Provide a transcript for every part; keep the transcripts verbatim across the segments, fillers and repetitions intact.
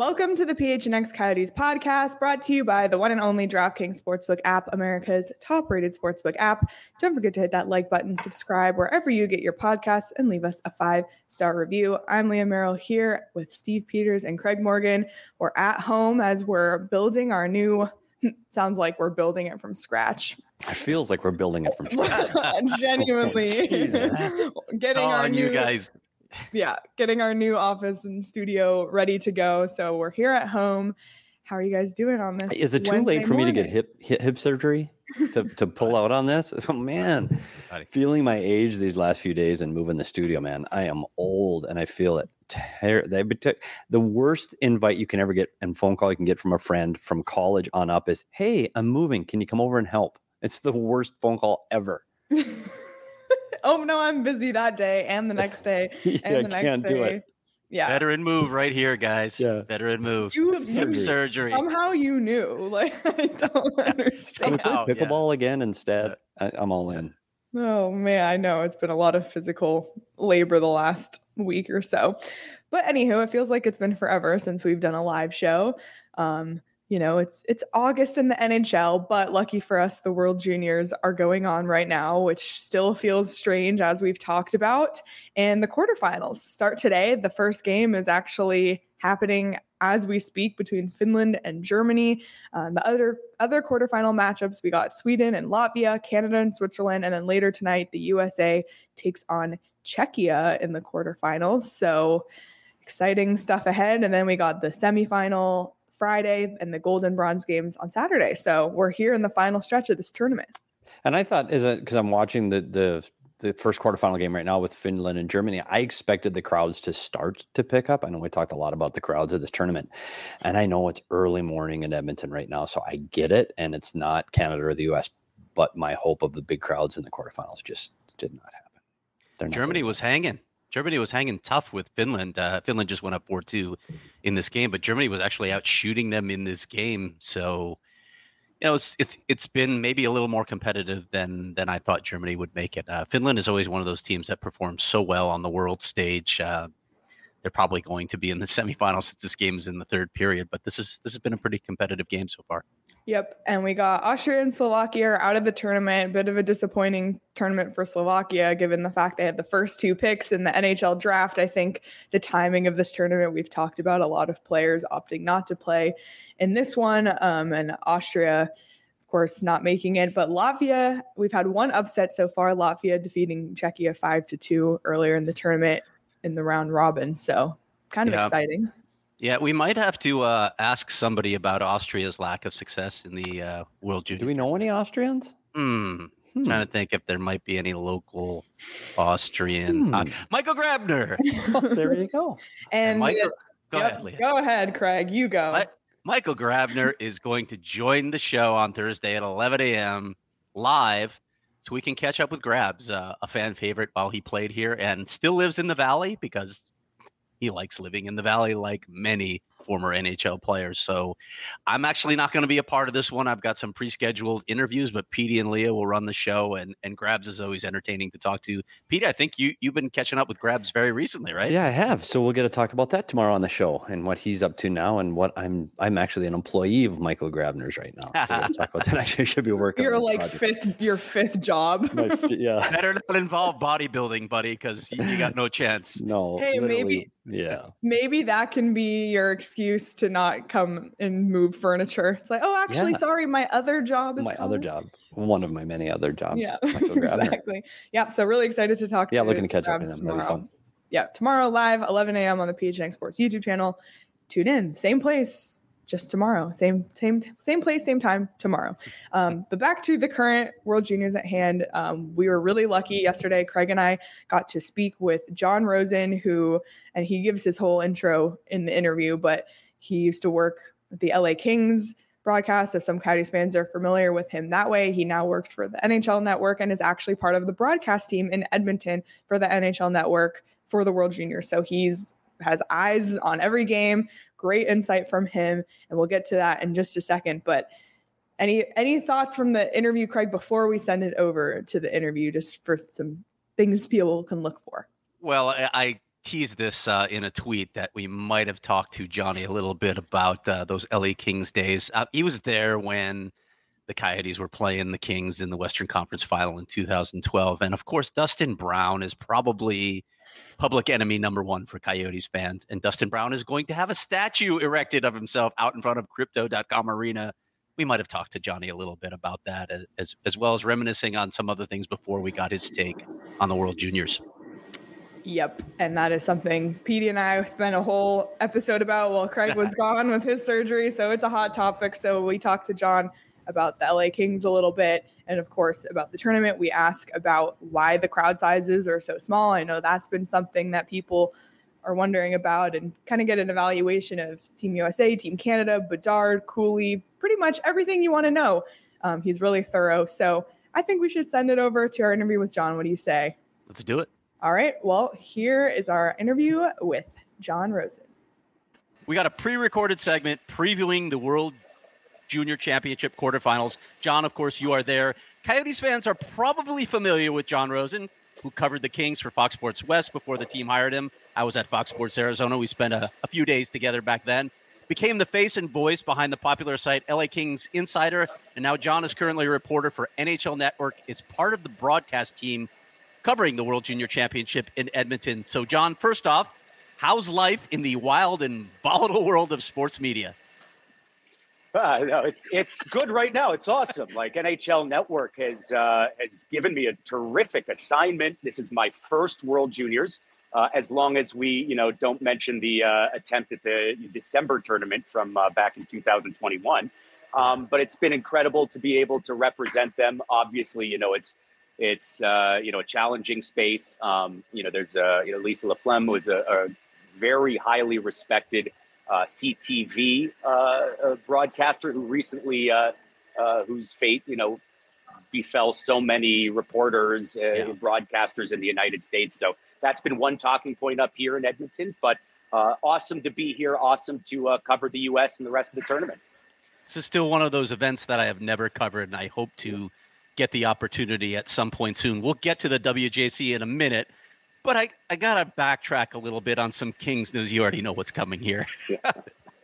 Welcome to the P H N X Coyotes podcast, brought to you by the one and only DraftKings Sportsbook app, America's top-rated sportsbook app. Don't forget to hit that like button, subscribe wherever you get your podcasts, and leave us a five-star review. I'm Leah Merrill here with Steve Peters and Craig Morgan. We're at home as we're building our new, sounds like we're building it from scratch. It feels like we're building it from scratch. Genuinely. Getting oh, our and new, you guys. Yeah, getting our new office and studio ready to go. So we're here at home. How are you guys doing on this? Is it too Wednesday late for morning? me to get hip hip, hip surgery to, to pull out on this? Oh, man, feeling my age these last few days and moving the studio, man. I am old and I feel it. Ter- they took the worst invite you can ever get and phone call you can get from a friend from college on up is, hey, I'm moving. Can you come over and help? It's the worst phone call ever. Oh, no, I'm busy that day and the next day and yeah, the next can't day. Do it. Yeah. Veteran move right here, guys. Yeah. Veteran move. You, Hip surgery. surgery. Somehow you knew. Like, I don't understand. Can we play pickleball yeah. again instead? I, I'm all in. Oh, man, I know. It's been a lot of physical labor the last week or so. But anywho, it feels like it's been forever since we've done a live show. Um, You know, it's it's August in the N H L, but lucky for us, the World Juniors are going on right now, which still feels strange as we've talked about. And the quarterfinals start today. The first game is actually happening as we speak between Finland and Germany. Um, the other other quarterfinal matchups, we got Sweden and Latvia, Canada and Switzerland, and then later tonight, the U S A takes on Czechia in the quarterfinals. So exciting stuff ahead. And then we got the semifinal Friday and the gold and bronze games on Saturday. So we're here in the final stretch of this tournament. And I thought, is it because I'm watching the, the the first quarterfinal game right now with Finland and Germany, I expected the crowds to start to pick up. I know we talked a lot about the crowds of this tournament, and I know it's early morning in Edmonton right now, so I get it, and it's not Canada or the U S, but my hope of the big crowds in the quarterfinals just did not happen. They're not Germany there. was hanging. Germany was hanging tough with Finland. Uh, Finland just went up four two in this game, but Germany was actually out shooting them in this game. So, you know, it's it's it's been maybe a little more competitive than than I thought Germany would make it. Uh, Finland is always one of those teams that performs so well on the world stage. Uh, they're probably going to be in the semifinals since this game is in the third period, but this is this has been a pretty competitive game so far. Yep. And we got Austria and Slovakia are out of the tournament. A bit of a disappointing tournament for Slovakia, given the fact they had the first two picks in the N H L draft. I think the timing of this tournament, we've talked about a lot of players opting not to play in this one. Um, and Austria, of course, not making it. But Latvia, we've had one upset so far. Latvia defeating Czechia five to two earlier in the tournament in the round robin. So kind of yeah. exciting. Yeah, we might have to uh, ask somebody about Austria's lack of success in the uh, World Junior. Do we know any Austrians? Hmm. Hmm. Trying to think if there might be any local Austrian. Hmm. Uh, Michael Grabner. Oh, there you go. And Michael, go yep, ahead, Leah. Go ahead, Craig. You go. Mi- Michael Grabner is going to join the show on Thursday at eleven a.m. live, so we can catch up with Grabs, uh, a fan favorite while he played here and still lives in the Valley because he likes living in the Valley like many former N H L players. So I'm actually not going to be a part of this one. I've got some pre-scheduled interviews, but Petey and Leah will run the show, and, and Grabs is always entertaining to talk to. Petey, I think you, you've been catching up with Grabs very recently, right? Yeah, I have. So we'll get to talk about that tomorrow on the show and what he's up to now and what I'm I'm actually an employee of Michael Grabner's right now. So we'll talk about that. I actually should be working You're on like project. fifth, your fifth job. My, yeah. Better not involve bodybuilding, buddy, because you, you got no chance. No. Hey, maybe Yeah. maybe that can be your excuse to not come and move furniture. It's like, oh, actually, Yeah. sorry, my other job is My calling. other job. One of my many other jobs. Yeah, Michael Grabner. exactly. Yeah, so really excited to talk. Yeah, to looking to catch up Grabs with them. That'll be tomorrow. fun. Yeah, tomorrow live, eleven a.m. on the P H N X Sports YouTube channel. Tune in, same place, just tomorrow. Same, same, same place, same time tomorrow. Um, but back to the current World Juniors at hand. Um, we were really lucky yesterday. Craig and I got to speak with John Rosen, who, and he gives his whole intro in the interview, but he used to work at the L A Kings broadcast, as some Coyotes fans are familiar with him that way. He now works for the N H L Network and is actually part of the broadcast team in Edmonton for the N H L Network for the World Juniors. So he's has eyes on every game. Great insight from him, and we'll get to that in just a second. But any any thoughts from the interview, Craig, before we send it over to the interview, just for some things people can look for? Well, I, I teased this uh, in a tweet that we might have talked to Johnny a little bit about uh, those L A Kings days. Uh, he was there when the Coyotes were playing the Kings in the Western Conference Final in two thousand twelve. And of course, Dustin Brown is probably public enemy number one for Coyotes fans. And Dustin Brown is going to have a statue erected of himself out in front of Crypto dot com Arena. We might have talked to Johnny a little bit about that, as, as, as well as reminiscing on some other things before we got his take on the World Juniors. Yep. And that is something Petey and I spent a whole episode about while Craig was gone with his surgery. So it's a hot topic. So we talked to John about the L A Kings a little bit. And of course, about the tournament, we ask about why the crowd sizes are so small. I know that's been something that people are wondering about, and kind of get an evaluation of Team U S A, Team Canada, Bedard, Cooley, pretty much everything you want to know. Um, he's really thorough. So I think we should send it over to our interview with John. What do you say? Let's do it. All right. Well, here is our interview with John Rosen. We got a pre-recorded segment previewing the World Junior Championship quarterfinals. John, of course, you are there. Coyotes fans are probably familiar with John Rosen, who covered the Kings for Fox Sports West before the team hired him. I was at Fox Sports Arizona. We spent a, a few days together back then. Became the face and voice behind the popular site L A Kings Insider, and now John is currently a reporter for N H L Network, is part of the broadcast team covering the World Junior Championship in Edmonton. So, John, first off, how's life in the wild and volatile world of sports media? Uh, no, it's it's good right now. It's awesome. Like N H L Network has uh, has given me a terrific assignment. This is my first World Juniors. Uh, as long as we, you know, don't mention the uh, attempt at the December tournament from uh, back in two thousand twenty-one. Um, but it's been incredible to be able to represent them. Obviously, you know, it's it's uh, you know a challenging space. Um, you know, there's uh, you know Lisa Laflamme was a, a very highly respected Uh, C T V uh, uh, broadcaster who recently, uh, uh, whose fate, you know, befell so many reporters, uh, yeah. broadcasters in the United States. So that's been one talking point up here in Edmonton. But uh, awesome to be here. Awesome to uh, cover the U S and the rest of the tournament. This is still one of those events that I have never covered, and I hope to get the opportunity at some point soon. We'll get to the W J C in a minute. But I, I got to backtrack a little bit on some Kings news. You already know what's coming here. Yeah.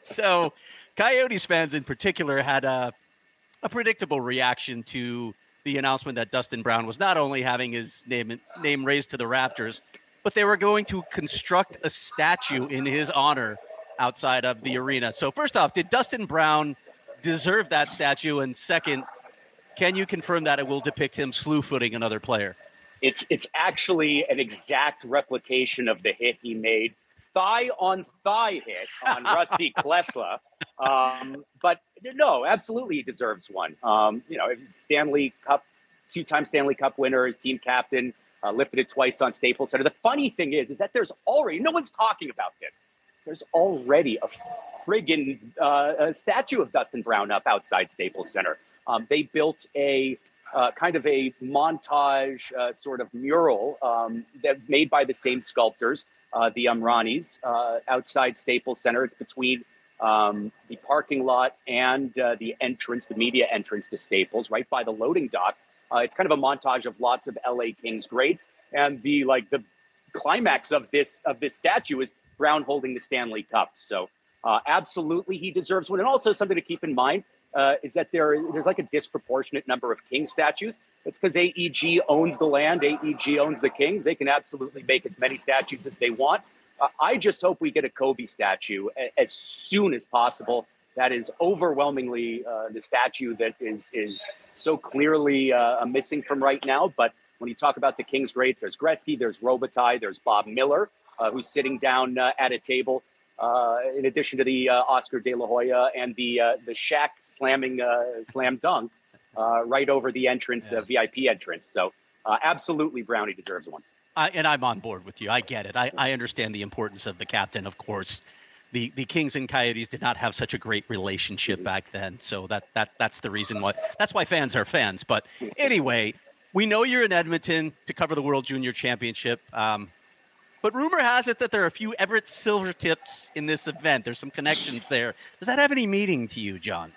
So Coyotes fans in particular had a, a predictable reaction to the announcement that Dustin Brown was not only having his name, name raised to the rafters, but they were going to construct a statue in his honor outside of the arena. So first off, did Dustin Brown deserve that statue? And second, can you confirm that it will depict him slew-footing another player? It's it's actually an exact replication of the hit he made, thigh on thigh hit on Rusty Klesla. Um, but no, absolutely he deserves one. Um, you know, Stanley Cup, two-time Stanley Cup winner, his team captain, uh, lifted it twice on Staples Center. The funny thing is, is that there's already, no one's talking about this. There's already a friggin' uh, a statue of Dustin Brown up outside Staples Center. Um, they built a Uh, kind of a montage uh, sort of mural um, that made by the same sculptors, uh, the Amranis, uh, outside Staples Center. It's between um, the parking lot and uh, the entrance, the media entrance to Staples, right by the loading dock. Uh, it's kind of a montage of lots of L A Kings greats, and the like the climax of this of this statue is Brown holding the Stanley Cup. So uh, absolutely, he deserves one, and also something to keep in mind. Uh, is that there? There's like a disproportionate number of King statues. It's because A E G owns the land. A E G owns the Kings. They can absolutely make as many statues as they want. Uh, I just hope we get a Kobe statue a- as soon as possible. That is overwhelmingly uh, the statue that is is so clearly uh, missing from right now. But when you talk about the Kings greats, there's Gretzky, there's Robitaille, there's Bob Miller, uh, who's sitting down uh, at a table. Uh, in addition to the uh, Oscar De La Hoya and the uh, the Shaq slamming uh, slam dunk uh, right over the entrance, yeah. uh, V I P entrance. So uh, absolutely, Brownie deserves one. I, and I'm on board with you. I get it. I, I understand the importance of the captain. Of course, the the Kings and Coyotes did not have such a great relationship back then. So that that that's the reason why. That's why fans are fans. But anyway, we know you're in Edmonton to cover the World Junior Championship. Um, But rumor has it that there are a few Everett Silvertips in this event. There's some connections there. Does that have any meaning to you, John?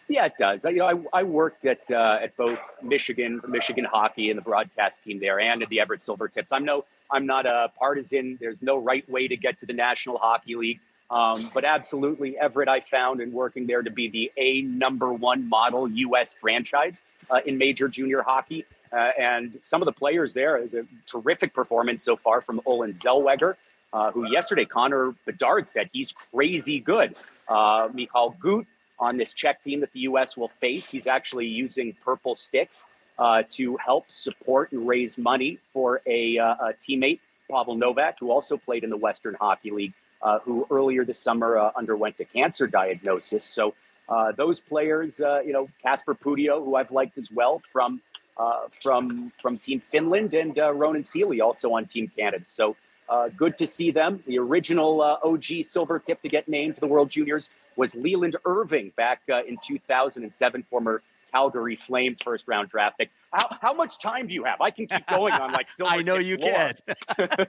Yeah, it does. You know, I, I worked at uh, at both Michigan, Michigan hockey, and the broadcast team there, and at the Everett Silvertips. I'm no, I'm not a partisan. There's no right way to get to the National Hockey League, um, but absolutely, Everett I found in working there to be the a number one model U S franchise uh, in major junior hockey, uh, and some of the players there is a terrific performance so far from Olin Zellweger, uh, who yesterday Connor Bedard said he's crazy good. Uh, Michal Gut on this Czech team that the U S will face. He's actually using purple sticks uh, to help support and raise money for a, uh, a teammate, Pavel Novak, who also played in the Western Hockey League, uh, who earlier this summer uh, underwent a cancer diagnosis. So uh, those players, uh, you know, Kasper Pudio, who I've liked as well from uh, from from Team Finland, and uh, Ronan Seeley also on Team Canada. So uh, good to see them. The original uh, O G Silvertip to get named to the World Juniors was Leland Irving back uh, in two thousand seven, former Calgary Flames first round draft pick. How, how much time do you have? I can keep going on like Silver I know you lore. Can.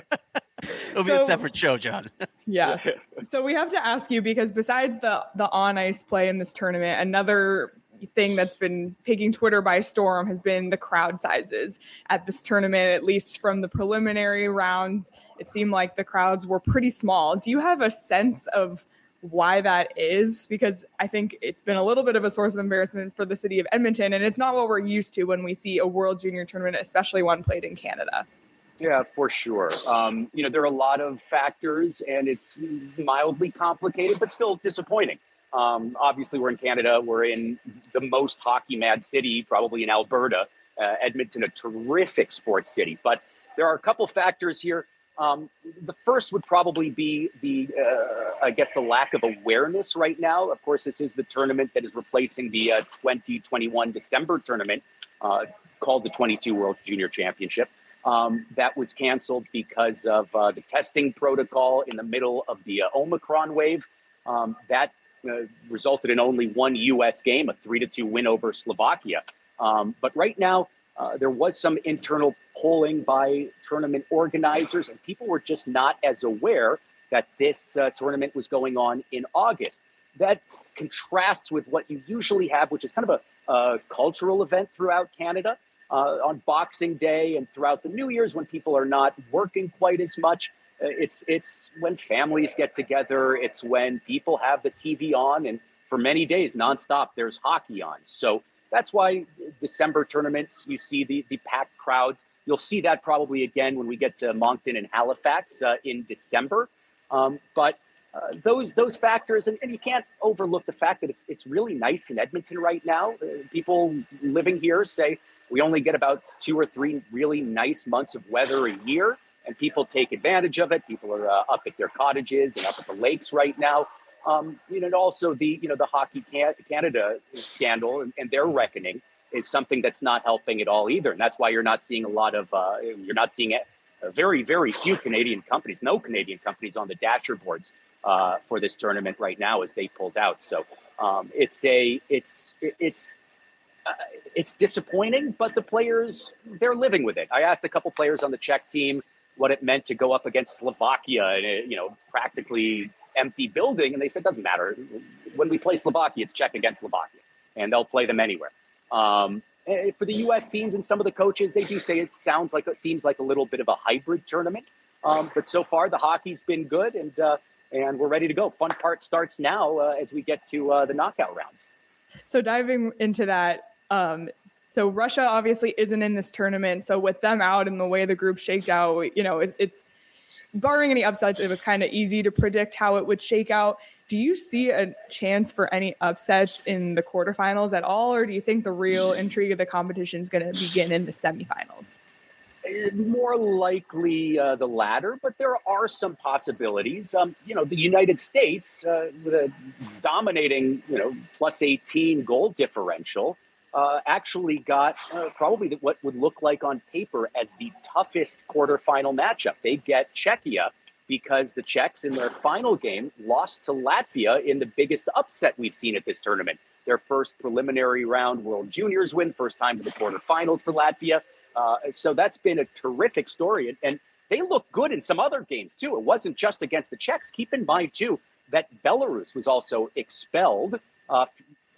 It'll so, be a separate show, John. Yeah. So we have to ask you, because besides the the on ice play in this tournament, another thing that's been taking Twitter by storm has been the crowd sizes at this tournament. At least from the preliminary rounds, it seemed like the crowds were pretty small. Do you have a sense of why that is? Because I think it's been a little bit of a source of embarrassment for the city of Edmonton, and it's not what we're used to when we see a World Junior tournament, especially one played in Canada. Yeah, for sure. Um, you know, there are a lot of factors, and it's mildly complicated, but still disappointing. Um, obviously, we're in Canada. We're in the most hockey mad city, probably in Alberta. Uh, Edmonton, a terrific sports city. But there are a couple factors here. Um, the first would probably be the, uh, I guess, the lack of awareness right now. Of course, this is the tournament that is replacing the uh, twenty twenty-one December tournament uh, called the twenty-two World Junior Championship. Um, that was canceled because of uh, the testing protocol in the middle of the uh, Omicron wave. Um, that uh, resulted in only one U S game, a three to two win over Slovakia. Um, but right now, Uh, there was some internal polling by tournament organizers, and people were just not as aware that this uh, tournament was going on in August. That contrasts with what you usually have, which is kind of a, a cultural event throughout Canada uh, on Boxing Day and throughout the New Year's, when people are not working quite as much. Uh, it's it's when families get together. It's when people have the T V on, and for many days nonstop, there's hockey on. So that's why December tournaments, you see the, the packed crowds. You'll see that probably again when we get to Moncton and Halifax uh, in December. Um, but uh, those those factors, and, and you can't overlook the fact that it's it's really nice in Edmonton right now. Uh, people living here say we only get about two or three really nice months of weather a year, and people take advantage of it. People are uh, up at their cottages and up at the lakes right now. Um, you know, and also the, you know, the Hockey Canada scandal and, and their reckoning is something that's not helping at all either. And that's why you're not seeing a lot of, uh, you're not seeing a, a very, very few Canadian companies, no Canadian companies on the dasher boards uh, for this tournament right now as they pulled out. So um, it's a, it's, it's, uh, it's disappointing, but the players, they're living with it. I asked a couple players on the Czech team what it meant to go up against Slovakia, and, you know, practically empty building, and they said, doesn't matter. When we play Slovakia, it's Czech against Slovakia, and they'll play them anywhere. Um, for the U S teams and some of the coaches, they do say it sounds like, it seems like a little bit of a hybrid tournament. Um, but so far, the hockey's been good, and uh, and we're ready to go. Fun part starts now uh, as we get to uh, the knockout rounds. So diving into that, um, so Russia obviously isn't in this tournament. So with them out and the way the group shaked out, you know, it, it's barring any upsets, it was kind of easy to predict how it would shake out. Do you see a chance for any upsets in the quarterfinals at all, or do you think the real intrigue of the competition is going to begin in the semifinals? More likely uh, the latter, but there are some possibilities. Um, you know, the United States, uh, with a dominating, you know, plus eighteen goal differential, Uh, actually got uh, probably what would look like on paper as the toughest quarterfinal matchup. They get Czechia because the Czechs in their final game lost to Latvia in the biggest upset we've seen at this tournament. Their first preliminary round World Juniors win, first time to the quarterfinals for Latvia. Uh, so that's been a terrific story. And, and they look good in some other games, too. It wasn't just against the Czechs. Keep in mind, too, that Belarus was also expelled uh,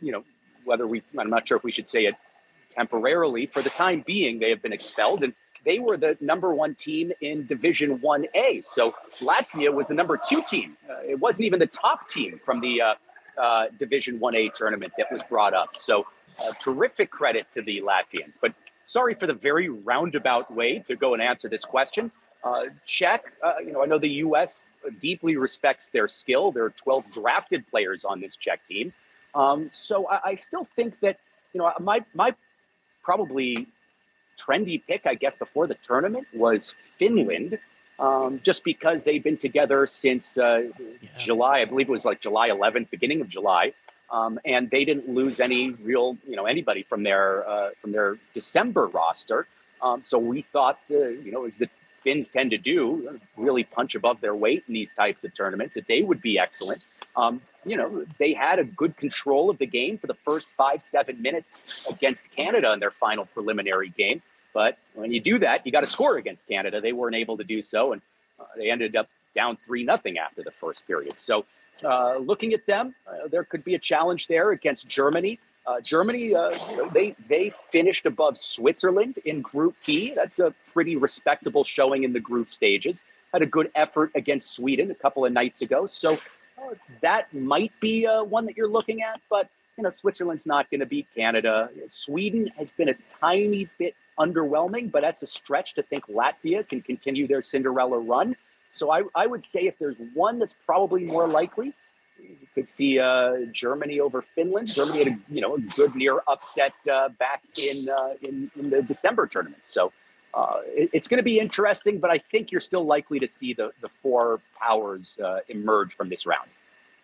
you know, whether we, I'm not sure if we should say it temporarily, for the time being, they have been expelled, and they were the number one team in Division one A. So Latvia was the number two team. Uh, it wasn't even the top team from the uh, uh, Division one A tournament that was brought up. So uh, terrific credit to the Latvians. But sorry for the very roundabout way to go and answer this question. Uh, Czech, uh, you know, I know the U S deeply respects their skill. There are twelve drafted players on this Czech team. Um, so I, I still think that, you know, my my probably trendy pick, I guess, before the tournament was Finland, um, just because they've been together since uh, yeah. July. I believe it was like July eleventh, beginning of July. Um, and they didn't lose any real, you know, anybody from their uh, from their December roster. Um, so we thought, the, you know, as the Finns tend to do, really punch above their weight in these types of tournaments, that they would be excellent. Um, you know, they had a good control of the game for the first five, seven minutes against Canada in their final preliminary game. But when you do that, you got to score against Canada. They weren't able to do so, and uh, they ended up down three nothing after the first period. So uh, looking at them, uh, there could be a challenge there against Germany. Uh, Germany, uh, you know, they they finished above Switzerland in Group B. That's a pretty respectable showing in the group stages. Had a good effort against Sweden a couple of nights ago. So uh, that might be uh, one that you're looking at. But, you know, Switzerland's not going to beat Canada. Sweden has been a tiny bit underwhelming, but that's a stretch to think Latvia can continue their Cinderella run. So I, I would say if there's one that's probably more likely, you could see uh, Germany over Finland. Germany had a you know a good near upset uh, back in, uh, in in the December tournament. So uh, it, it's going to be interesting, but I think you're still likely to see the the four powers uh, emerge from this round.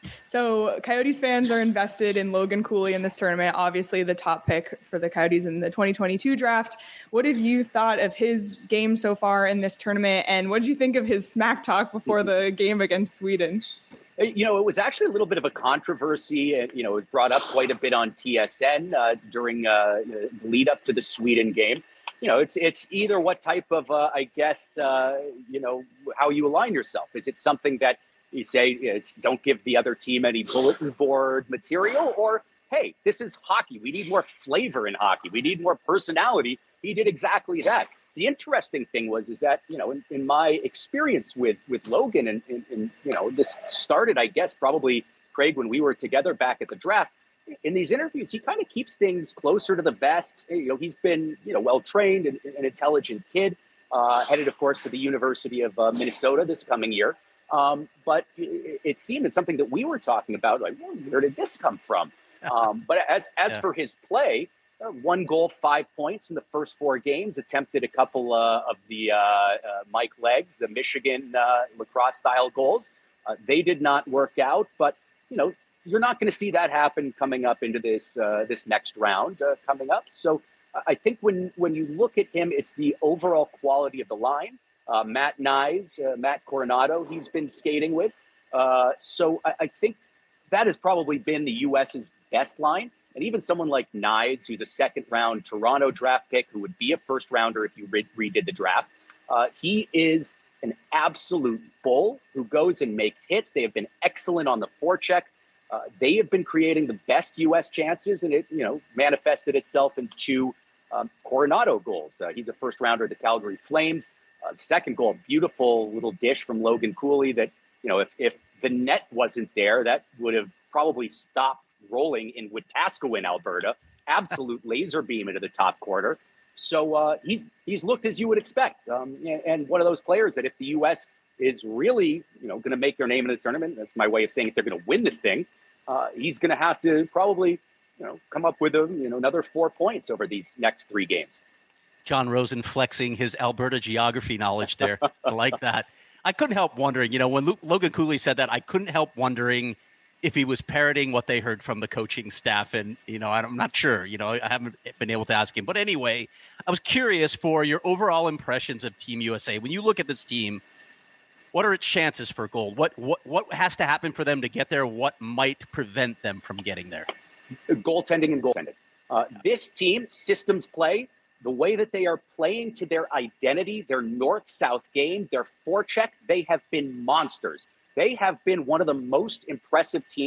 So Coyotes fans are invested in Logan Cooley in this tournament, obviously the top pick for the Coyotes in the twenty twenty-two draft. What have you thought of his game so far in this tournament? And what did you think of his smack talk before the game against Sweden? You know, it was actually a little bit of a controversy. You know, it was brought up quite a bit on T S N uh, during uh, the lead up to the Sweden game. You know, it's it's either what type of, uh, I guess, uh, you know, how you align yourself. Is it something that you say, it's, don't give the other team any bulletin board material, or, hey, this is hockey. We need more flavor in hockey. We need more personality. He did exactly that. The interesting thing was, is that, you know, in, in my experience with, with Logan and, and, and, you know, this started, I guess, probably, Craig, when we were together back at the draft. In these interviews, he kind of keeps things closer to the vest. You know, he's been, you know, well-trained and an intelligent kid, uh, headed, of course, to the University of uh, Minnesota this coming year. Um, but it, it seemed it's something that we were talking about, like, well, where did this come from? Um, but as as yeah. for his play, uh, one goal, five points in the first four games, attempted a couple uh, of the uh, uh, Mike Leggs, the Michigan uh, lacrosse-style goals. Uh, they did not work out, but, you know, you're not going to see that happen coming up into this uh, this next round uh, coming up. So uh, I think when, when you look at him, it's the overall quality of the line. Uh, Matt Nyes, uh, Matt Coronado, he's been skating with. Uh, so I, I think that has probably been the U S's best line. And even someone like Nyes, who's a second round Toronto draft pick, who would be a first rounder if you re- redid the draft, uh, he is an absolute bull who goes and makes hits. They have been excellent on the forecheck. Uh, they have been creating the best U S chances, and it, you know, manifested itself in two um, Coronado goals. Uh, he's a first rounder of the Calgary Flames. Uh, the second goal, beautiful little dish from Logan Cooley that, you know, if, if the net wasn't there, that would have probably stopped rolling in Wetaskiwin, Alberta. Absolute laser beam into the top corner. So uh, he's he's looked as you would expect. Um, and, and one of those players that if the U S is really, you know, going to make their name in this tournament, that's my way of saying if they're going to win this thing, uh, he's going to have to probably, you know, come up with a, you know, another four points over these next three games. John Rosen flexing his Alberta geography knowledge there. I like that. I couldn't help wondering, you know, when Luke, Logan Cooley said that, I couldn't help wondering if he was parroting what they heard from the coaching staff. And, you know, I'm not sure, you know, I haven't been able to ask him. But anyway, I was curious for your overall impressions of Team U S A. When you look at this team, what are its chances for gold? What what what has to happen for them to get there? What might prevent them from getting there? Goaltending and goaltending. Uh, this team, systems play, the way that they are playing to their identity, their north-south game, their forecheck, they have been monsters. They have been one of the most impressive teams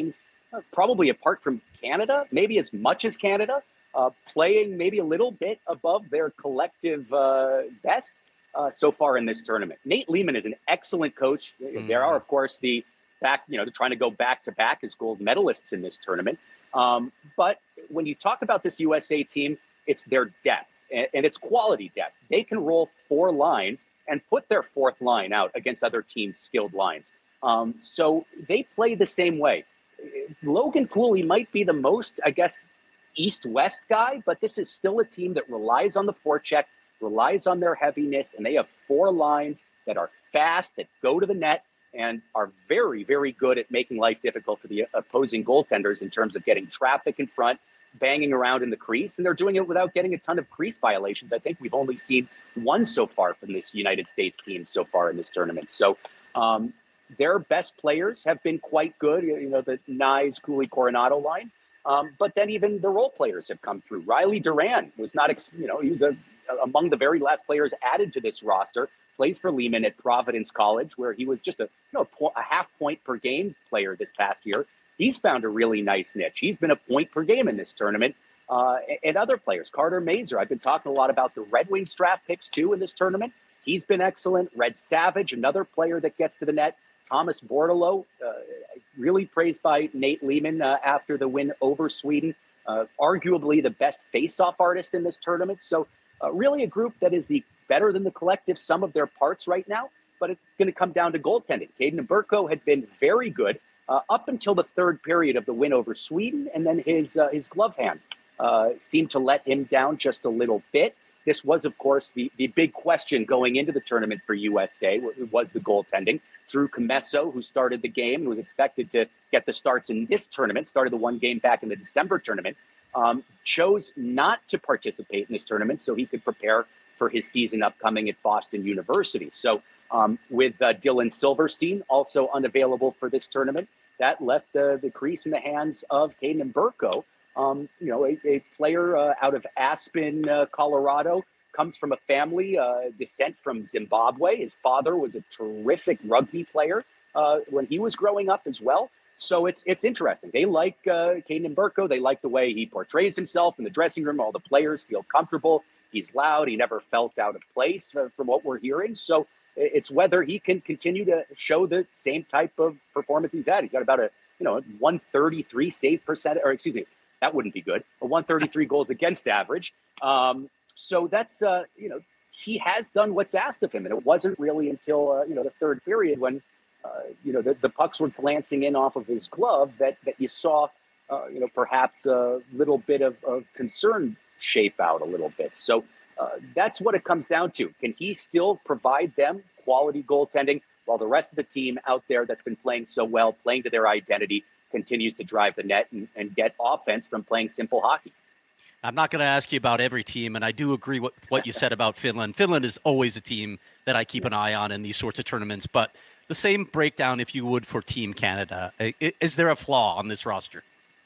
uh, probably apart from Canada, maybe as much as Canada, uh, playing maybe a little bit above their collective uh, best uh, so far in this tournament. Nate Lehman is an excellent coach. Mm. There are, of course, the back, you know, they're trying to go back to back as gold medalists in this tournament. Um, but when you talk about this U S A team, it's their depth and, and it's quality depth. They can roll four lines and put their fourth line out against other teams' skilled lines. Um, so they play the same way. Logan Cooley might be the most, I guess, east-west guy, but this is still a team that relies on the forecheck, relies on their heaviness, and they have four lines that are fast, that go to the net, and are very, very good at making life difficult for the opposing goaltenders in terms of getting traffic in front, banging around in the crease, and they're doing it without getting a ton of crease violations. I think we've only seen one so far from this United States team so far in this tournament. So um, their best players have been quite good, you know, the Nyes, Cooley, Coronado line. Um, but then even the role players have come through. Riley Duran was not, you know, he was a, among the very last players added to this roster, plays for Lehman at Providence College, where he was just a, you know, a half point per game player this past year. He's found a really nice niche. He's been a point per game in this tournament. Uh, and other players, Carter Mazer. I've been talking a lot about the Red Wings draft picks too in this tournament. He's been excellent. Red Savage, another player that gets to the net. Thomas Bordeleau, uh, really praised by Nate Lehman uh, after the win over Sweden. Uh, arguably the best face-off artist in this tournament. So uh, really a group that is the better than the collective sum of their parts right now. But it's going to come down to goaltending. Caden Burko had been very good uh, up until the third period of the win over Sweden, and then his uh, his glove hand uh, seemed to let him down just a little bit. This was, of course, the, the big question going into the tournament for U S A, was the goaltending. Drew Commesso, who started the game, who was expected to get the starts in this tournament, started the one game back in the December tournament, um, chose not to participate in this tournament so he could prepare for his season upcoming at Boston University. So um, with uh, Dylan Silverstein also unavailable for this tournament, that left uh, the crease in the hands of Caden Burko. Um, you know, a, a player uh, out of Aspen, uh, Colorado, comes from a family uh, descent from Zimbabwe. His father was a terrific rugby player uh, when he was growing up as well. So it's it's interesting. They like uh, Caden Burko. They like the way he portrays himself in the dressing room. All the players feel comfortable. He's loud. He never felt out of place uh, from what we're hearing. So it's whether he can continue to show the same type of performance he's had. He's got about a, you know, one thirty-three save percent, or excuse me, that wouldn't be good. A one thirty-three goals against average. Um, so that's, uh, you know, he has done what's asked of him. And it wasn't really until, uh, you know, the third period when, uh, you know, the, the pucks were glancing in off of his glove that, that you saw, uh, you know, perhaps a little bit of, of concern shape out a little bit. So uh, that's what it comes down to. Can he still provide them quality goaltending while the rest of the team out there that's been playing so well, playing to their identity, continues to drive the net and, and get offense from playing simple hockey? I'm not going to ask you about every team, and I do agree with what you said about Finland. Finland is always a team that I keep an eye on in these sorts of tournaments, but the same breakdown, if you would, for Team Canada. Is there a flaw on this roster?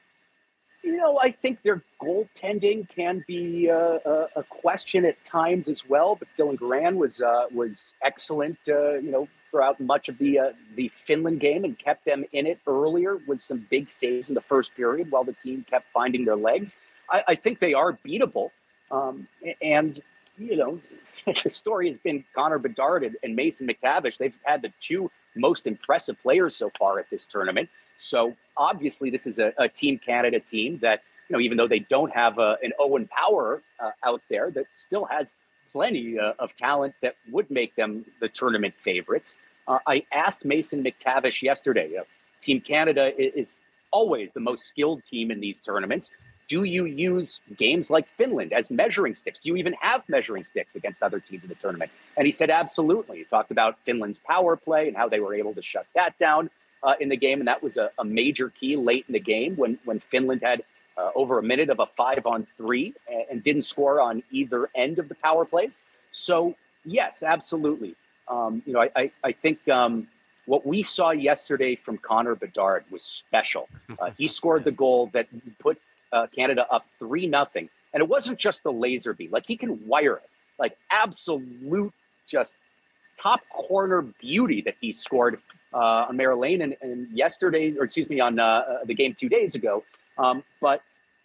You know, I think their goaltending can be uh, a, a question at times as well, but Dylan Garand was uh, was excellent, uh, you know, throughout much of the uh, the Finland game and kept them in it earlier with some big saves in the first period while the team kept finding their legs. I, I think they are beatable. Um, and, you know, the story has been Connor Bedard and, and Mason McTavish. They've had the two most impressive players so far at this tournament. So obviously this is a, a Team Canada team that, you know, even though they don't have a, an Owen Power uh, out there, that still has plenty uh, of talent that would make them the tournament favorites. Uh, I asked Mason McTavish yesterday, uh, Team Canada is, is always the most skilled team in these tournaments. Do you use games like Finland as measuring sticks? Do you even have measuring sticks against other teams in the tournament? And he said, absolutely. He talked about Finland's power play and how they were able to shut that down uh, in the game. And that was a, a major key late in the game when, when Finland had uh, over a minute of a five on three and, and didn't score on either end of the power plays. So yes, absolutely. Um, you know, I, I, I think um, what we saw yesterday from Connor Bedard was special. Uh, he scored the goal that put Uh, Canada up three nothing, and it wasn't just the laser beam. Like, he can wire it, like absolute, just top corner beauty that he scored uh, on Mara Lane and, and yesterday's, or excuse me, on uh, the game two days ago. Um, but,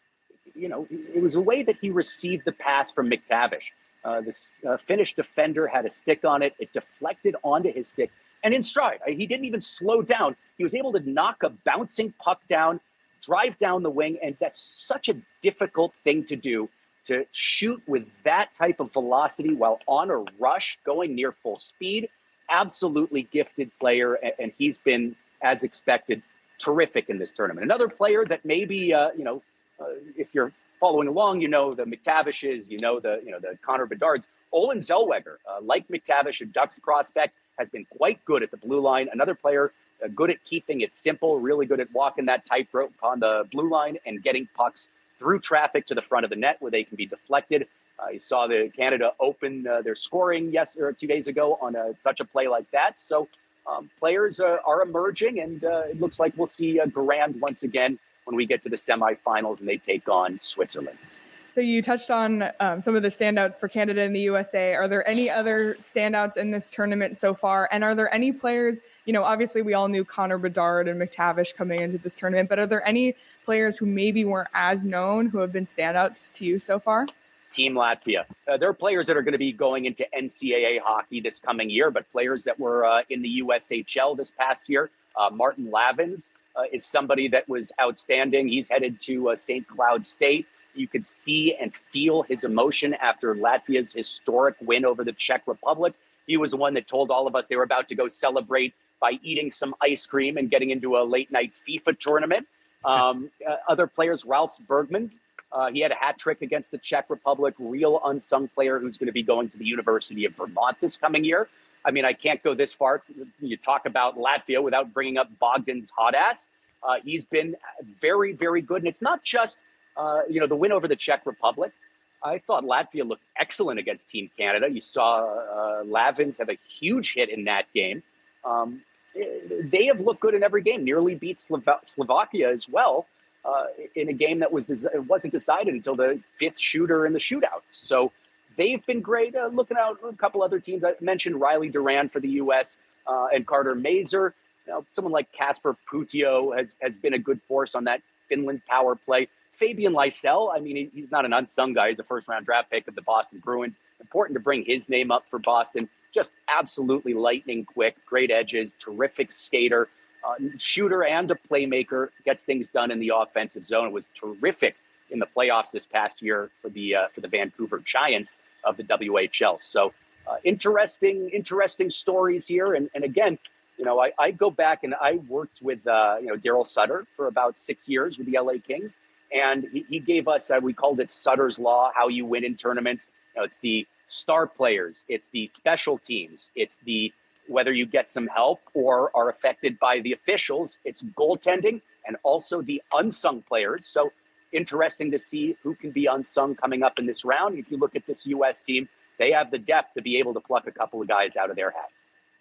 you know, it was a way that he received the pass from McTavish. Uh, this uh, Finnish defender had a stick on it. It deflected onto his stick and in stride. He didn't even slow down. He was able to knock a bouncing puck down, drive down the wing. And that's such a difficult thing to do, to shoot with that type of velocity while on a rush, going near full speed. Absolutely gifted player. And he's been, as expected, terrific in this tournament. Another player that maybe, uh, you know, uh, if you're following along, you know the McTavishes, you know the you know the Connor Bedards. Olin Zellweger, uh, like McTavish, a Ducks prospect, has been quite good at the blue line. Another player uh, good at keeping it simple, really good at walking that tightrope on the blue line and getting pucks through traffic to the front of the net where they can be deflected. Uh, you saw the Canada open uh, their scoring yes or two days ago on a, such a play like that. So um, players uh, are emerging, and uh, it looks like we'll see uh, Garand once again when we get to the semifinals and they take on Switzerland. So you touched on um, some of the standouts for Canada and the U S A. Are there any other standouts in this tournament so far? And are there any players, you know, obviously we all knew Connor Bedard and McTavish coming into this tournament, but are there any players who maybe weren't as known who have been standouts to you so far? Team Latvia. Uh, there are players that are going to be going into N C double A hockey this coming year, but players that were uh, in the U S H L this past year. Uh, Martin Lavins uh, is somebody that was outstanding. He's headed to uh, Saint Cloud State. You could see and feel his emotion after Latvia's historic win over the Czech Republic. He was the one that told all of us they were about to go celebrate by eating some ice cream and getting into a late night FIFA tournament. Um, uh, other players, Ralph Bergmans, uh, he had a hat trick against the Czech Republic, real unsung player who's going to be going to the University of Vermont this coming year. I mean, I can't go this far. To, you talk about Latvia without bringing up Bogdan's hot ass. Uh, he's been very, very good. And it's not just, uh, you know, the win over the Czech Republic. I thought Latvia looked excellent against Team Canada. You saw uh, Lavins have a huge hit in that game. Um, they have looked good in every game, nearly beat Slova- Slovakia as well uh, in a game that was des- wasn't decided until the fifth shooter in the shootout. So they've been great. Uh, looking out a couple other teams. I mentioned Riley Duran for the U S uh, and Carter Mazer. You know, someone like Kasper Putio has, has been a good force on that Finland power play. Fabian Lysell, I mean, he, he's not an unsung guy. He's a first-round draft pick of the Boston Bruins. Important to bring his name up for Boston. Just absolutely lightning quick, great edges, terrific skater, uh, shooter and a playmaker, gets things done in the offensive zone. It was terrific in the playoffs this past year for the uh, for the Vancouver Giants of the W H L. So uh, interesting, interesting stories here. And, and again, you know, I, I go back and I worked with, uh, you know, Daryl Sutter for about six years with the L A Kings. And he, he gave us, uh, we called it Sutter's Law, how you win in tournaments. You know, it's the star players, it's the special teams, it's the whether you get some help or are affected by the officials, it's goaltending, and also the unsung players. So interesting to see who can be unsung coming up in this round. If you look at this U S team, they have the depth to be able to pluck a couple of guys out of their hat.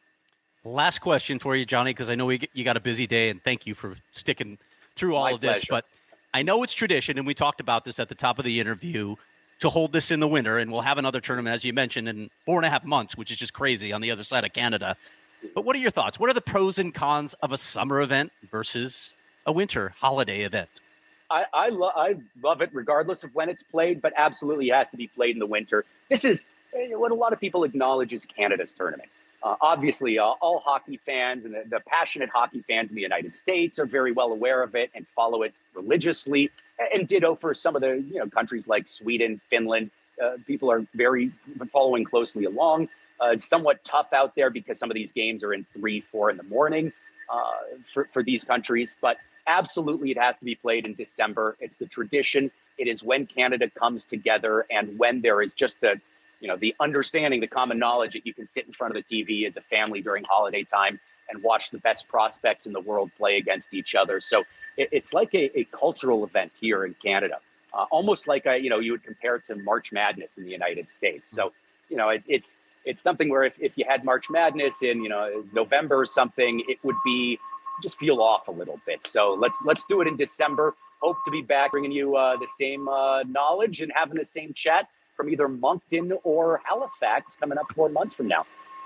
Last question for you, Johnny, because I know we, you got a busy day, and thank you for sticking through all My of this. pleasure. But I know it's tradition, and we talked about this at the top of the interview, to hold this in the winter, and we'll have another tournament, as you mentioned, in four and a half months, which is just crazy on the other side of Canada. But what are your thoughts? What are the pros and cons of a summer event versus a winter holiday event? I I, lo- I love it regardless of when it's played, but absolutely it has to be played in the winter. This is what a lot of people acknowledge is Canada's tournament. Uh, obviously, uh, all hockey fans and the, the passionate hockey fans in the United States are very well aware of it and follow it religiously. And ditto for some of the you know countries like Sweden, Finland. Uh, people are very following closely along. Uh, it's somewhat tough out there because some of these games are in three, four in the morning uh, for, for these countries. But absolutely, it has to be played in December. It's the tradition. It is when Canada comes together and when there is just the you know, the understanding, the common knowledge that you can sit in front of the T V as a family during holiday time and watch the best prospects in the world play against each other. So it, it's like a, a cultural event here in Canada, uh, almost like, a, you know, you would compare it to March Madness in the United States. So, you know, it, it's it's something where if, if you had March Madness in, you know, November or something, it would be just feel off a little bit. So let's let's do it in December. Hope to be back bringing you uh, the same uh, knowledge and having the same chat from either Moncton or Halifax coming up four months from now.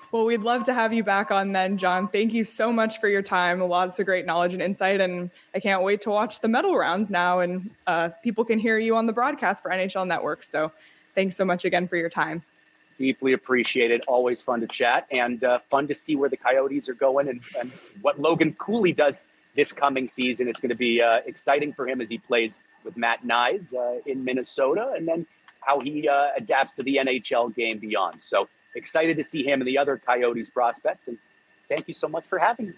Well, we'd love to have you back on then, John. Thank you so much for your time. Lots of great knowledge and insight. And I can't wait to watch the medal rounds now. And uh, people can hear you on the broadcast for N H L Network. So thanks so much again for your time. Deeply appreciated. Always fun to chat and uh, fun to see where the Coyotes are going and, and what Logan Cooley does this coming season. It's going to be uh, exciting for him as he plays with Matt Nyes uh, in Minnesota, and then how he uh, adapts to the N H L game beyond. So excited to see him and the other Coyotes prospects. And thank you so much for having me.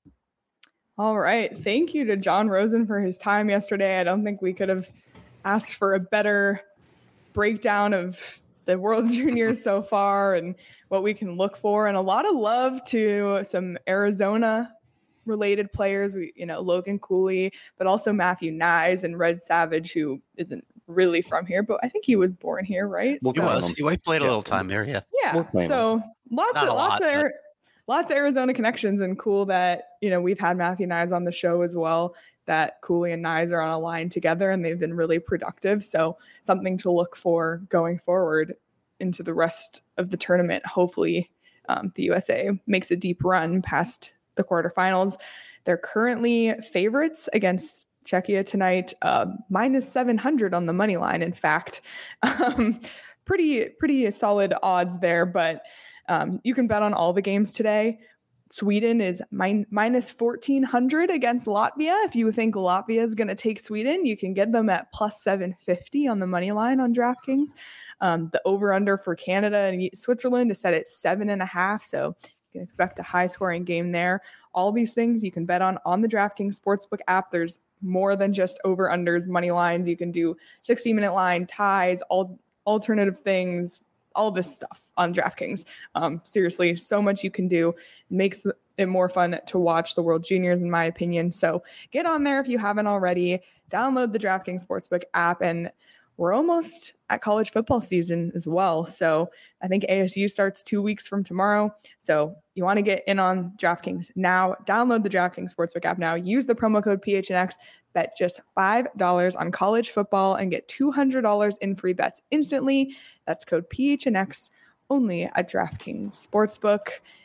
All right. Thank you to John Rosen for his time yesterday. I don't think we could have asked for a better breakdown of the World Juniors so far and what we can look for, and a lot of love to some Arizona related players. We, you know, Logan Cooley, but also Matthew Nyes and Red Savage, who isn't really from here, but I think he was born here, right? Well, so, he was. He played a little time there, yeah. Yeah. We'll so lots Not of lots lot, of but... lots of Arizona connections, and cool that, you know, we've had Matthew Nyes on the show as well, that Cooley and Nyes are on a line together and they've been really productive. So something to look for going forward into the rest of the tournament. Hopefully um, the U S A makes a deep run past the quarterfinals. They're currently favorites against Czechia tonight, uh, minus seven hundred on the money line. In fact, um, pretty, pretty solid odds there, but um, you can bet on all the games today. Sweden is min- minus fourteen hundred against Latvia. If you think Latvia is going to take Sweden, you can get them at plus seven fifty on the money line on DraftKings. Um, the over-under for Canada and Switzerland is set at seven and a half, so you can expect a high-scoring game there. All these things you can bet on on the DraftKings Sportsbook app. There's more than just over-unders, money lines. You can do sixty-minute line, ties, all alternative things, all this stuff on DraftKings. Um, seriously, so much you can do. It makes it more fun to watch the World Juniors, in my opinion. So get on there if you haven't already. Download the DraftKings Sportsbook app, and we're almost at college football season as well. So I think A S U starts two weeks from tomorrow. So you want to get in on DraftKings now. Download the DraftKings Sportsbook app now. Use the promo code P H N X. Bet just five dollars on college football and get two hundred dollars in free bets instantly. That's code P H N X only at DraftKings Sportsbook.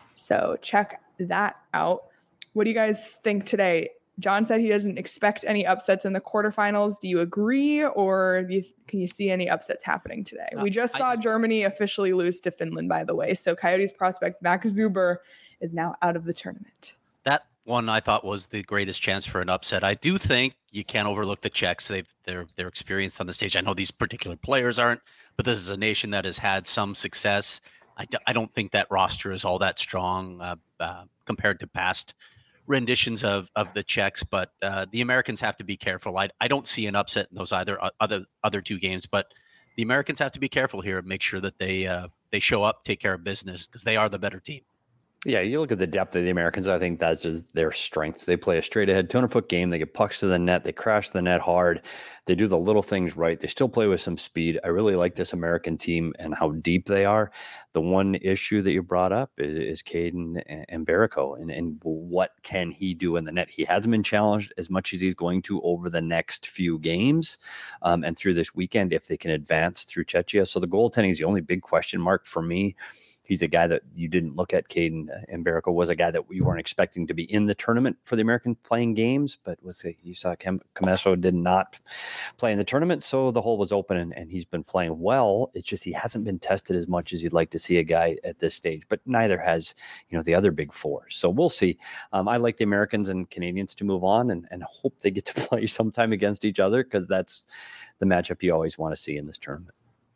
So check that out. What do you guys think today? John said he doesn't expect any upsets in the quarterfinals. Do you agree, or do you, can you see any upsets happening today? Uh, we just saw just, Germany officially lose to Finland, by the way. So Coyotes prospect Max Zuber is now out of the tournament. That one I thought was the greatest chance for an upset. I do think you can't overlook the Czechs. They've they're they're experienced on the stage. I know these particular players aren't, but this is a nation that has had some success. I, d- I don't think that roster is all that strong uh, uh, compared to past renditions of of the Czechs, but uh, the Americans have to be careful. I I don't see an upset in those either uh, other other two games, but the Americans have to be careful here and make sure that they uh, they show up, take care of business, because they are the better team. Yeah, you look at the depth of the Americans, I think that's just their strength. They play a straight ahead two hundred foot game. They get pucks to the net. They crash the net hard. They do the little things right. They still play with some speed. I really like this American team and how deep they are. The one issue that you brought up is, is Caden and Mbereko, and, and what can he do in the net? He hasn't been challenged as much as he's going to over the next few games um, and through this weekend if they can advance through Czechia. So the goaltending is the only big question mark for me. He's a guy that you didn't look at. Caden Mbereko was a guy that we weren't expecting to be in the tournament for the American playing games, but with the, you saw Commesso did not play in the tournament, so the hole was open, and, and he's been playing well. It's just he hasn't been tested as much as you'd like to see a guy at this stage, but neither has, you know, the other big four. So we'll see. Um, I like the Americans and Canadians to move on and, and hope they get to play sometime against each other, because that's the matchup you always want to see in this tournament.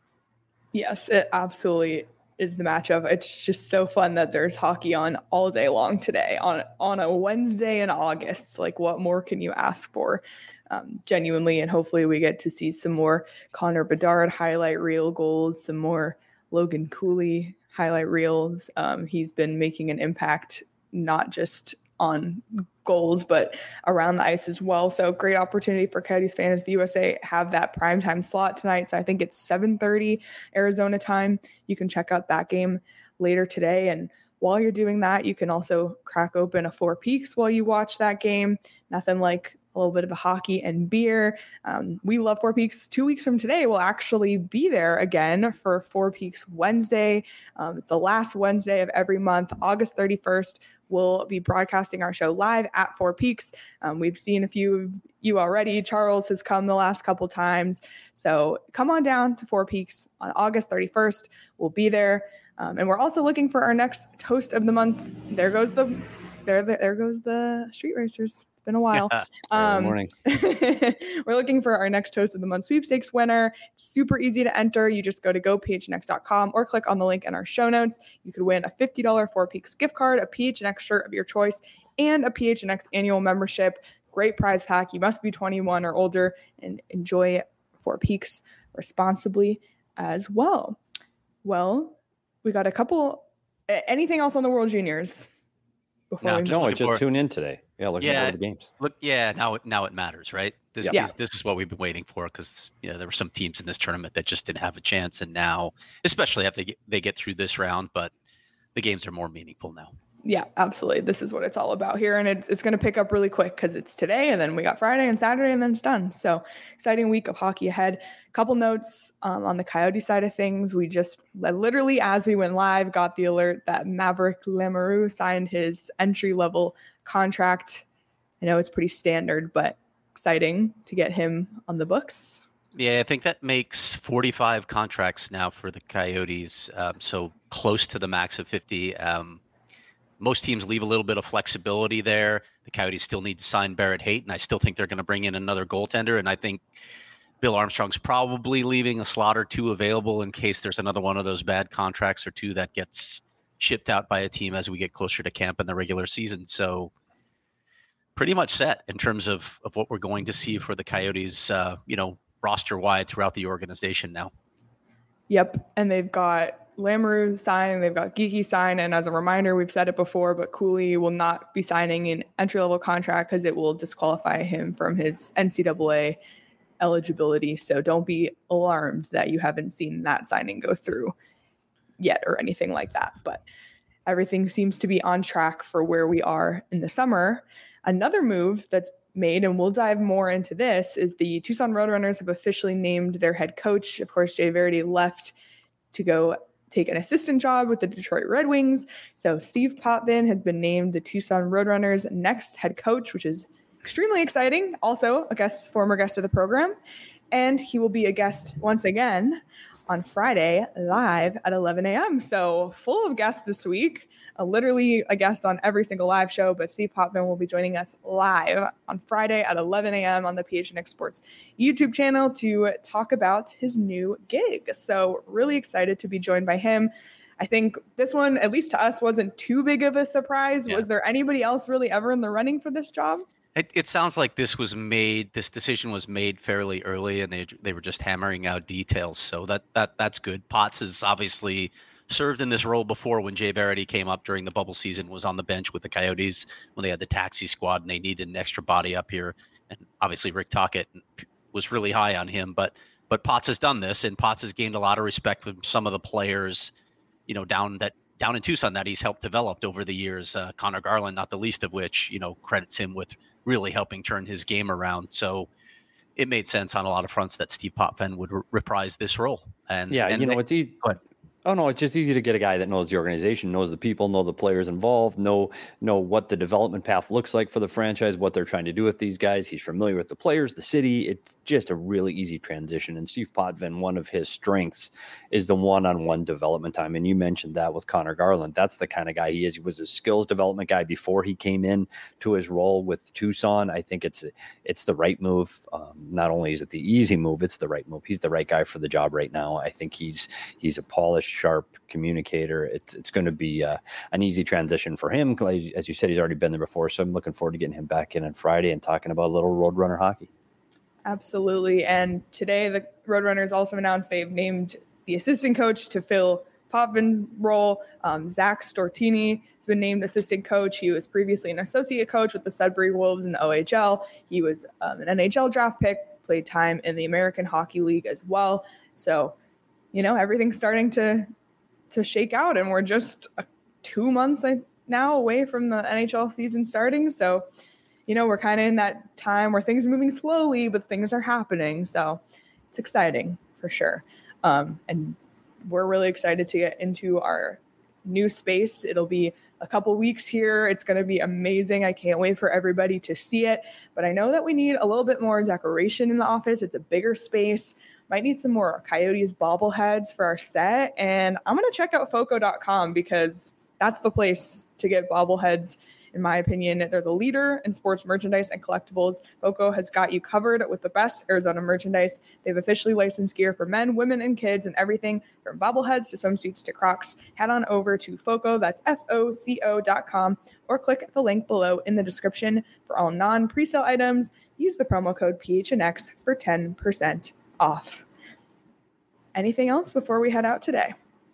Yes, it absolutely is the matchup. It's just so fun that there's hockey on all day long today on on a Wednesday in August. Like, what more can you ask for? Um, genuinely, and hopefully we get to see some more Connor Bedard highlight reel goals, some more Logan Cooley highlight reels. Um, he's been making an impact not just on goals, but around the ice as well. So great opportunity for Coyotes fans. The U S A have that primetime slot tonight. So I think it's seven thirty Arizona time. You can check out that game later today. And while you're doing that, you can also crack open a Four Peaks while you watch that game. Nothing like a little bit of a hockey and beer. Um, we love Four Peaks. Two weeks from today, we'll actually be there again for Four Peaks Wednesday, um, the last Wednesday of every month, August thirty-first. We'll be broadcasting our show live at Four Peaks. Um, we've seen a few of you already. Charles has come the last couple times. So come on down to Four Peaks on August thirty-first. We'll be there. Um, and we're also looking for our next Toast of the Months. There goes the, there, there goes the Street Racers. It's been a while. Yeah. Um, morning. We're looking for our next Toast of the Month sweepstakes winner. It's super easy to enter. You just go to go p h n x dot com or click on the link in our show notes. You could win a fifty dollars Four Peaks gift card, a P H N X shirt of your choice, and a P H N X annual membership. Great prize pack. You must be twenty-one or older and enjoy Four Peaks responsibly as well. Well, we got a couple. Anything else on the World Juniors? No, we just No, I looking just for- tune in today. Yeah, looking Yeah. forward to the games. Look, yeah, now it now it matters, right? This, Yeah. this, this is what we've been waiting for because you know there were some teams in this tournament that just didn't have a chance, and now, especially after they get, they get through this round, but the games are more meaningful now. Yeah, absolutely. This is what it's all about here. And it's, it's going to pick up really quick because it's today and then we got Friday and Saturday and then it's done. So exciting week of hockey ahead. Couple notes um, on the Coyote side of things. We just literally, as we went live, got the alert that Maverick Lamoureux signed his entry level contract. I know it's pretty standard, but exciting to get him on the books. Yeah, I think that makes forty-five contracts now for the Coyotes, um, so close to the max of fifty. Um, most teams leave a little bit of flexibility there. The Coyotes still need to sign Barrett Hayton, and I still think they're going to bring in another goaltender, and I think Bill Armstrong's probably leaving a slot or two available in case there's another one of those bad contracts or two that gets shipped out by a team as we get closer to camp in the regular season. So pretty much set in terms of, of what we're going to see for the Coyotes, uh, you know, roster-wide throughout the organization now. Yep. And they've got Lamoureux sign, they've got Geeky sign. And as a reminder, we've said it before, but Cooley will not be signing an entry-level contract because it will disqualify him from his N C double A eligibility. So don't be alarmed that you haven't seen that signing go through yet or anything like that. But everything seems to be on track for where we are in the summer. Another move that's made, and we'll dive more into this, is the Tucson Roadrunners have officially named their head coach. Of course, Jay Verity left to go take an assistant job with the Detroit Red Wings. So Steve Potvin has been named the Tucson Roadrunners' next head coach, which is extremely exciting. Also a guest, former guest of the program. And he will be a guest once again on Friday live at eleven a.m. So full of guests this week. Uh, literally a guest on every single live show, but Steve Potvin will be joining us live on Friday at eleven a.m. on the P H N X Sports YouTube channel to talk about his new gig. So really excited to be joined by him. I think this one, at least to us, wasn't too big of a surprise. Yeah. Was there anybody else really ever in the running for this job? It, it sounds like this was made, this decision was made fairly early, and they they were just hammering out details. So that that that's good. Potts has obviously served in this role before when Jay Verity came up during the bubble season, was on the bench with the Coyotes when they had the taxi squad and they needed an extra body up here. And obviously Rick Tocchet was really high on him, but but Potts has done this, and Potts has gained a lot of respect from some of the players, you know, down that down in Tucson that he's helped develop over the years. Uh, Connor Garland, not the least of which, you know, credits him with really helping turn his game around. So it made sense on a lot of fronts that Steve Potvin would re- reprise this role. And yeah, and you know, they, it's easy. Oh no, it's just easy to get a guy that knows the organization, knows the people, know the players involved, know know what the development path looks like for the franchise, what they're trying to do with these guys. He's familiar with the players, the city. It's just a really easy transition. And Steve Potvin, one of his strengths is the one-on-one development time. And you mentioned that with Connor Garland. That's the kind of guy he is. He was a skills development guy before he came in to his role with Tucson. I think it's it's the right move. Um, not only is it the easy move, it's the right move. He's the right guy for the job right now. I think he's he's a polished, sharp communicator. It's it's going to be uh, an easy transition for him. As you said, he's already been there before, so I'm looking forward to getting him back in on Friday and talking about a little Roadrunner hockey. Absolutely. And today the Roadrunners also announced they've named the assistant coach to fill Potvin's role. Um, Zach Stortini has been named assistant coach. He was previously an associate coach with the Sudbury Wolves in the O H L. He was um, an N H L draft pick, played time in the American Hockey League as well. So, you know, everything's starting to to shake out, and we're just uh, two months now away from the N H L season starting. So, you know, we're kind of in that time where things are moving slowly, but things are happening. So it's exciting for sure. Um, and we're really excited to get into our new space. It'll be a couple weeks here. It's going to be amazing. I can't wait for everybody to see it. But I know that we need a little bit more decoration in the office. It's a bigger space. Might need some more Coyotes bobbleheads for our set. And I'm going to check out foco dot com because that's the place to get bobbleheads. In my opinion, they're the leader in sports merchandise and collectibles. Foco has got you covered with the best Arizona merchandise. They've officially licensed gear for men, women, and kids, and everything from bobbleheads to swimsuits to Crocs. Head on over to Foco, that's F O C O dot com, or click the link below in the description for all non-presale items. Use the promo code P H N X for ten percent off. Anything else before we head out today?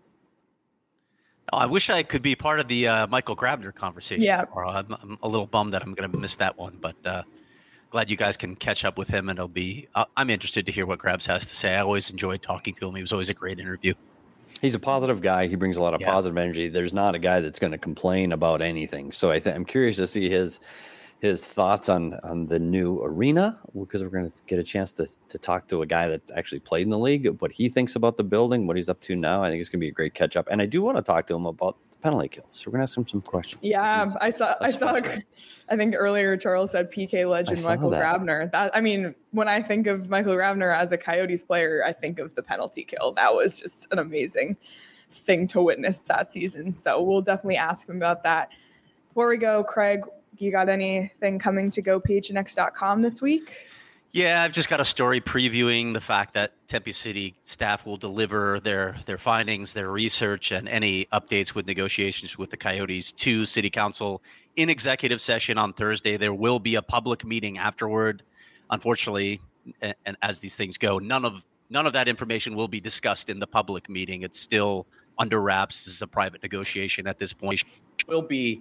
Oh, I wish I could be part of the uh, Michael Grabner conversation Yeah. tomorrow. I'm, I'm a little bummed that I'm going to miss that one, but uh, glad you guys can catch up with him. And it'll be. Uh, I'm interested to hear what Grabs has to say. I always enjoyed talking to him. He was always a great interview. He's a positive guy. He brings a lot of Yeah. positive energy. There's not a guy that's going to complain about anything. So I think I'm curious to see his his thoughts on on the new arena, because we're going to get a chance to to talk to a guy that's actually played in the league, what he thinks about the building, what he's up to now. I think it's going to be a great catch up. And I do want to talk to him about the penalty kill. So we're going to ask him some questions. Yeah, He's I saw. I a saw. specialist. I think earlier Charles said P K legend saw Michael that. Grabner. That I mean, when I think of Michael Grabner as a Coyotes player, I think of the penalty kill. That was just an amazing thing to witness that season. So we'll definitely ask him about that. Before we go, Craig, you got anything coming to go P H N X dot com this week? Yeah, I've just got a story previewing the fact that Tempe City staff will deliver their their findings, their research, and any updates with negotiations with the Coyotes to City Council in executive session on Thursday. There will be a public meeting afterward. Unfortunately, and, and as these things go, none of none of that information will be discussed in the public meeting. It's still under wraps. This is a private negotiation at this point. Will be.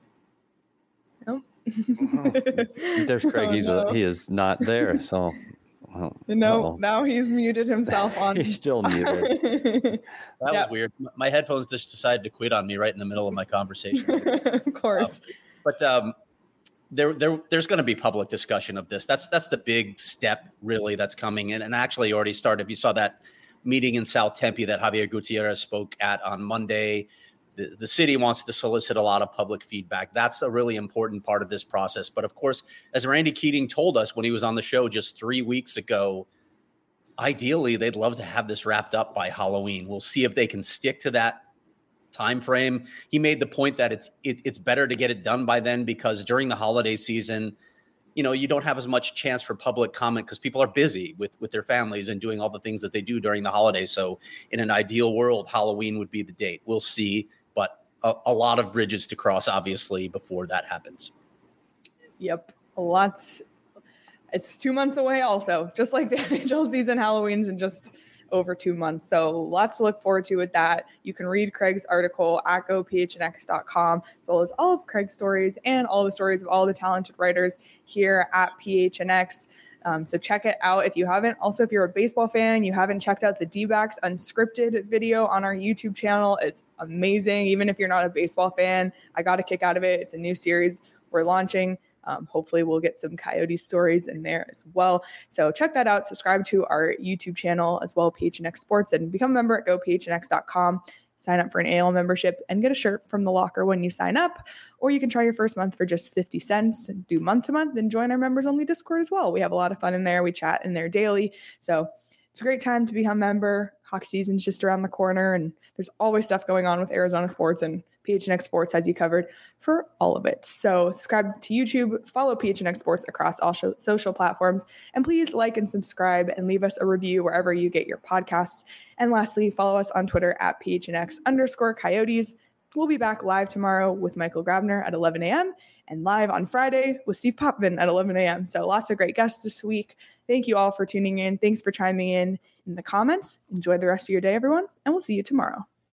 Nope. There's Craig. Oh, He's no. a, he is not there. So well, No, uh-oh. now he's muted himself on. He's still muted. That Yeah. was weird. M- My headphones just decided to quit on me right in the middle of my conversation. Of course. But um, there, there, there's going to be public discussion of this. That's that's the big step, really, that's coming in. And actually already started. If you saw that meeting in South Tempe that Javier Gutierrez spoke at on Monday, the, the city wants to solicit a lot of public feedback. That's a really important part of this process. But of course, as Randy Keating told us when he was on the show just three weeks ago, ideally, they'd love to have this wrapped up by Halloween. We'll see if they can stick to that time frame. He made the point that it's it, it's better to get it done by then, because during the holiday season, you know, you don't have as much chance for public comment because people are busy with with their families and doing all the things that they do during the holidays. So in an ideal world, Halloween would be the date. We'll see, but a, a lot of bridges to cross, obviously, before that happens. Yep. Lots. It's two months away also, just like the N H L season. Halloween's in just over two months. So lots to look forward to with that. You can read Craig's article at go P H N X dot com, as well as all of Craig's stories and all the stories of all the talented writers here at P H N X. Um, so check it out if you haven't. Also, if you're a baseball fan, you haven't checked out the D-backs unscripted video on our YouTube channel. It's amazing. Even if you're not a baseball fan, I got a kick out of it. It's a new series we're launching. Um, hopefully we'll get some Coyote stories in there as well. So check that out. Subscribe to our YouTube channel as well, P H N X Sports, and become a member at go P H N X dot com. Sign up for an A L membership and get a shirt from the locker when you sign up. Or you can try your first month for just fifty cents and do month to month and join our members only Discord as well. We have a lot of fun in there. We chat in there daily. So it's a great time to become a member. Hockey season's just around the corner, and there's always stuff going on with Arizona sports, and P H N X Sports has you covered for all of it. So subscribe to YouTube, follow P H N X Sports across all sh- social platforms, and please like and subscribe and leave us a review wherever you get your podcasts. And lastly, follow us on Twitter at P H N X underscore Coyotes. We'll be back live tomorrow with Michael Grabner at eleven a.m. and live on Friday with Steve Potvin at eleven a.m. So lots of great guests this week. Thank you all for tuning in. Thanks for chiming in in the comments. Enjoy the rest of your day, everyone, and we'll see you tomorrow.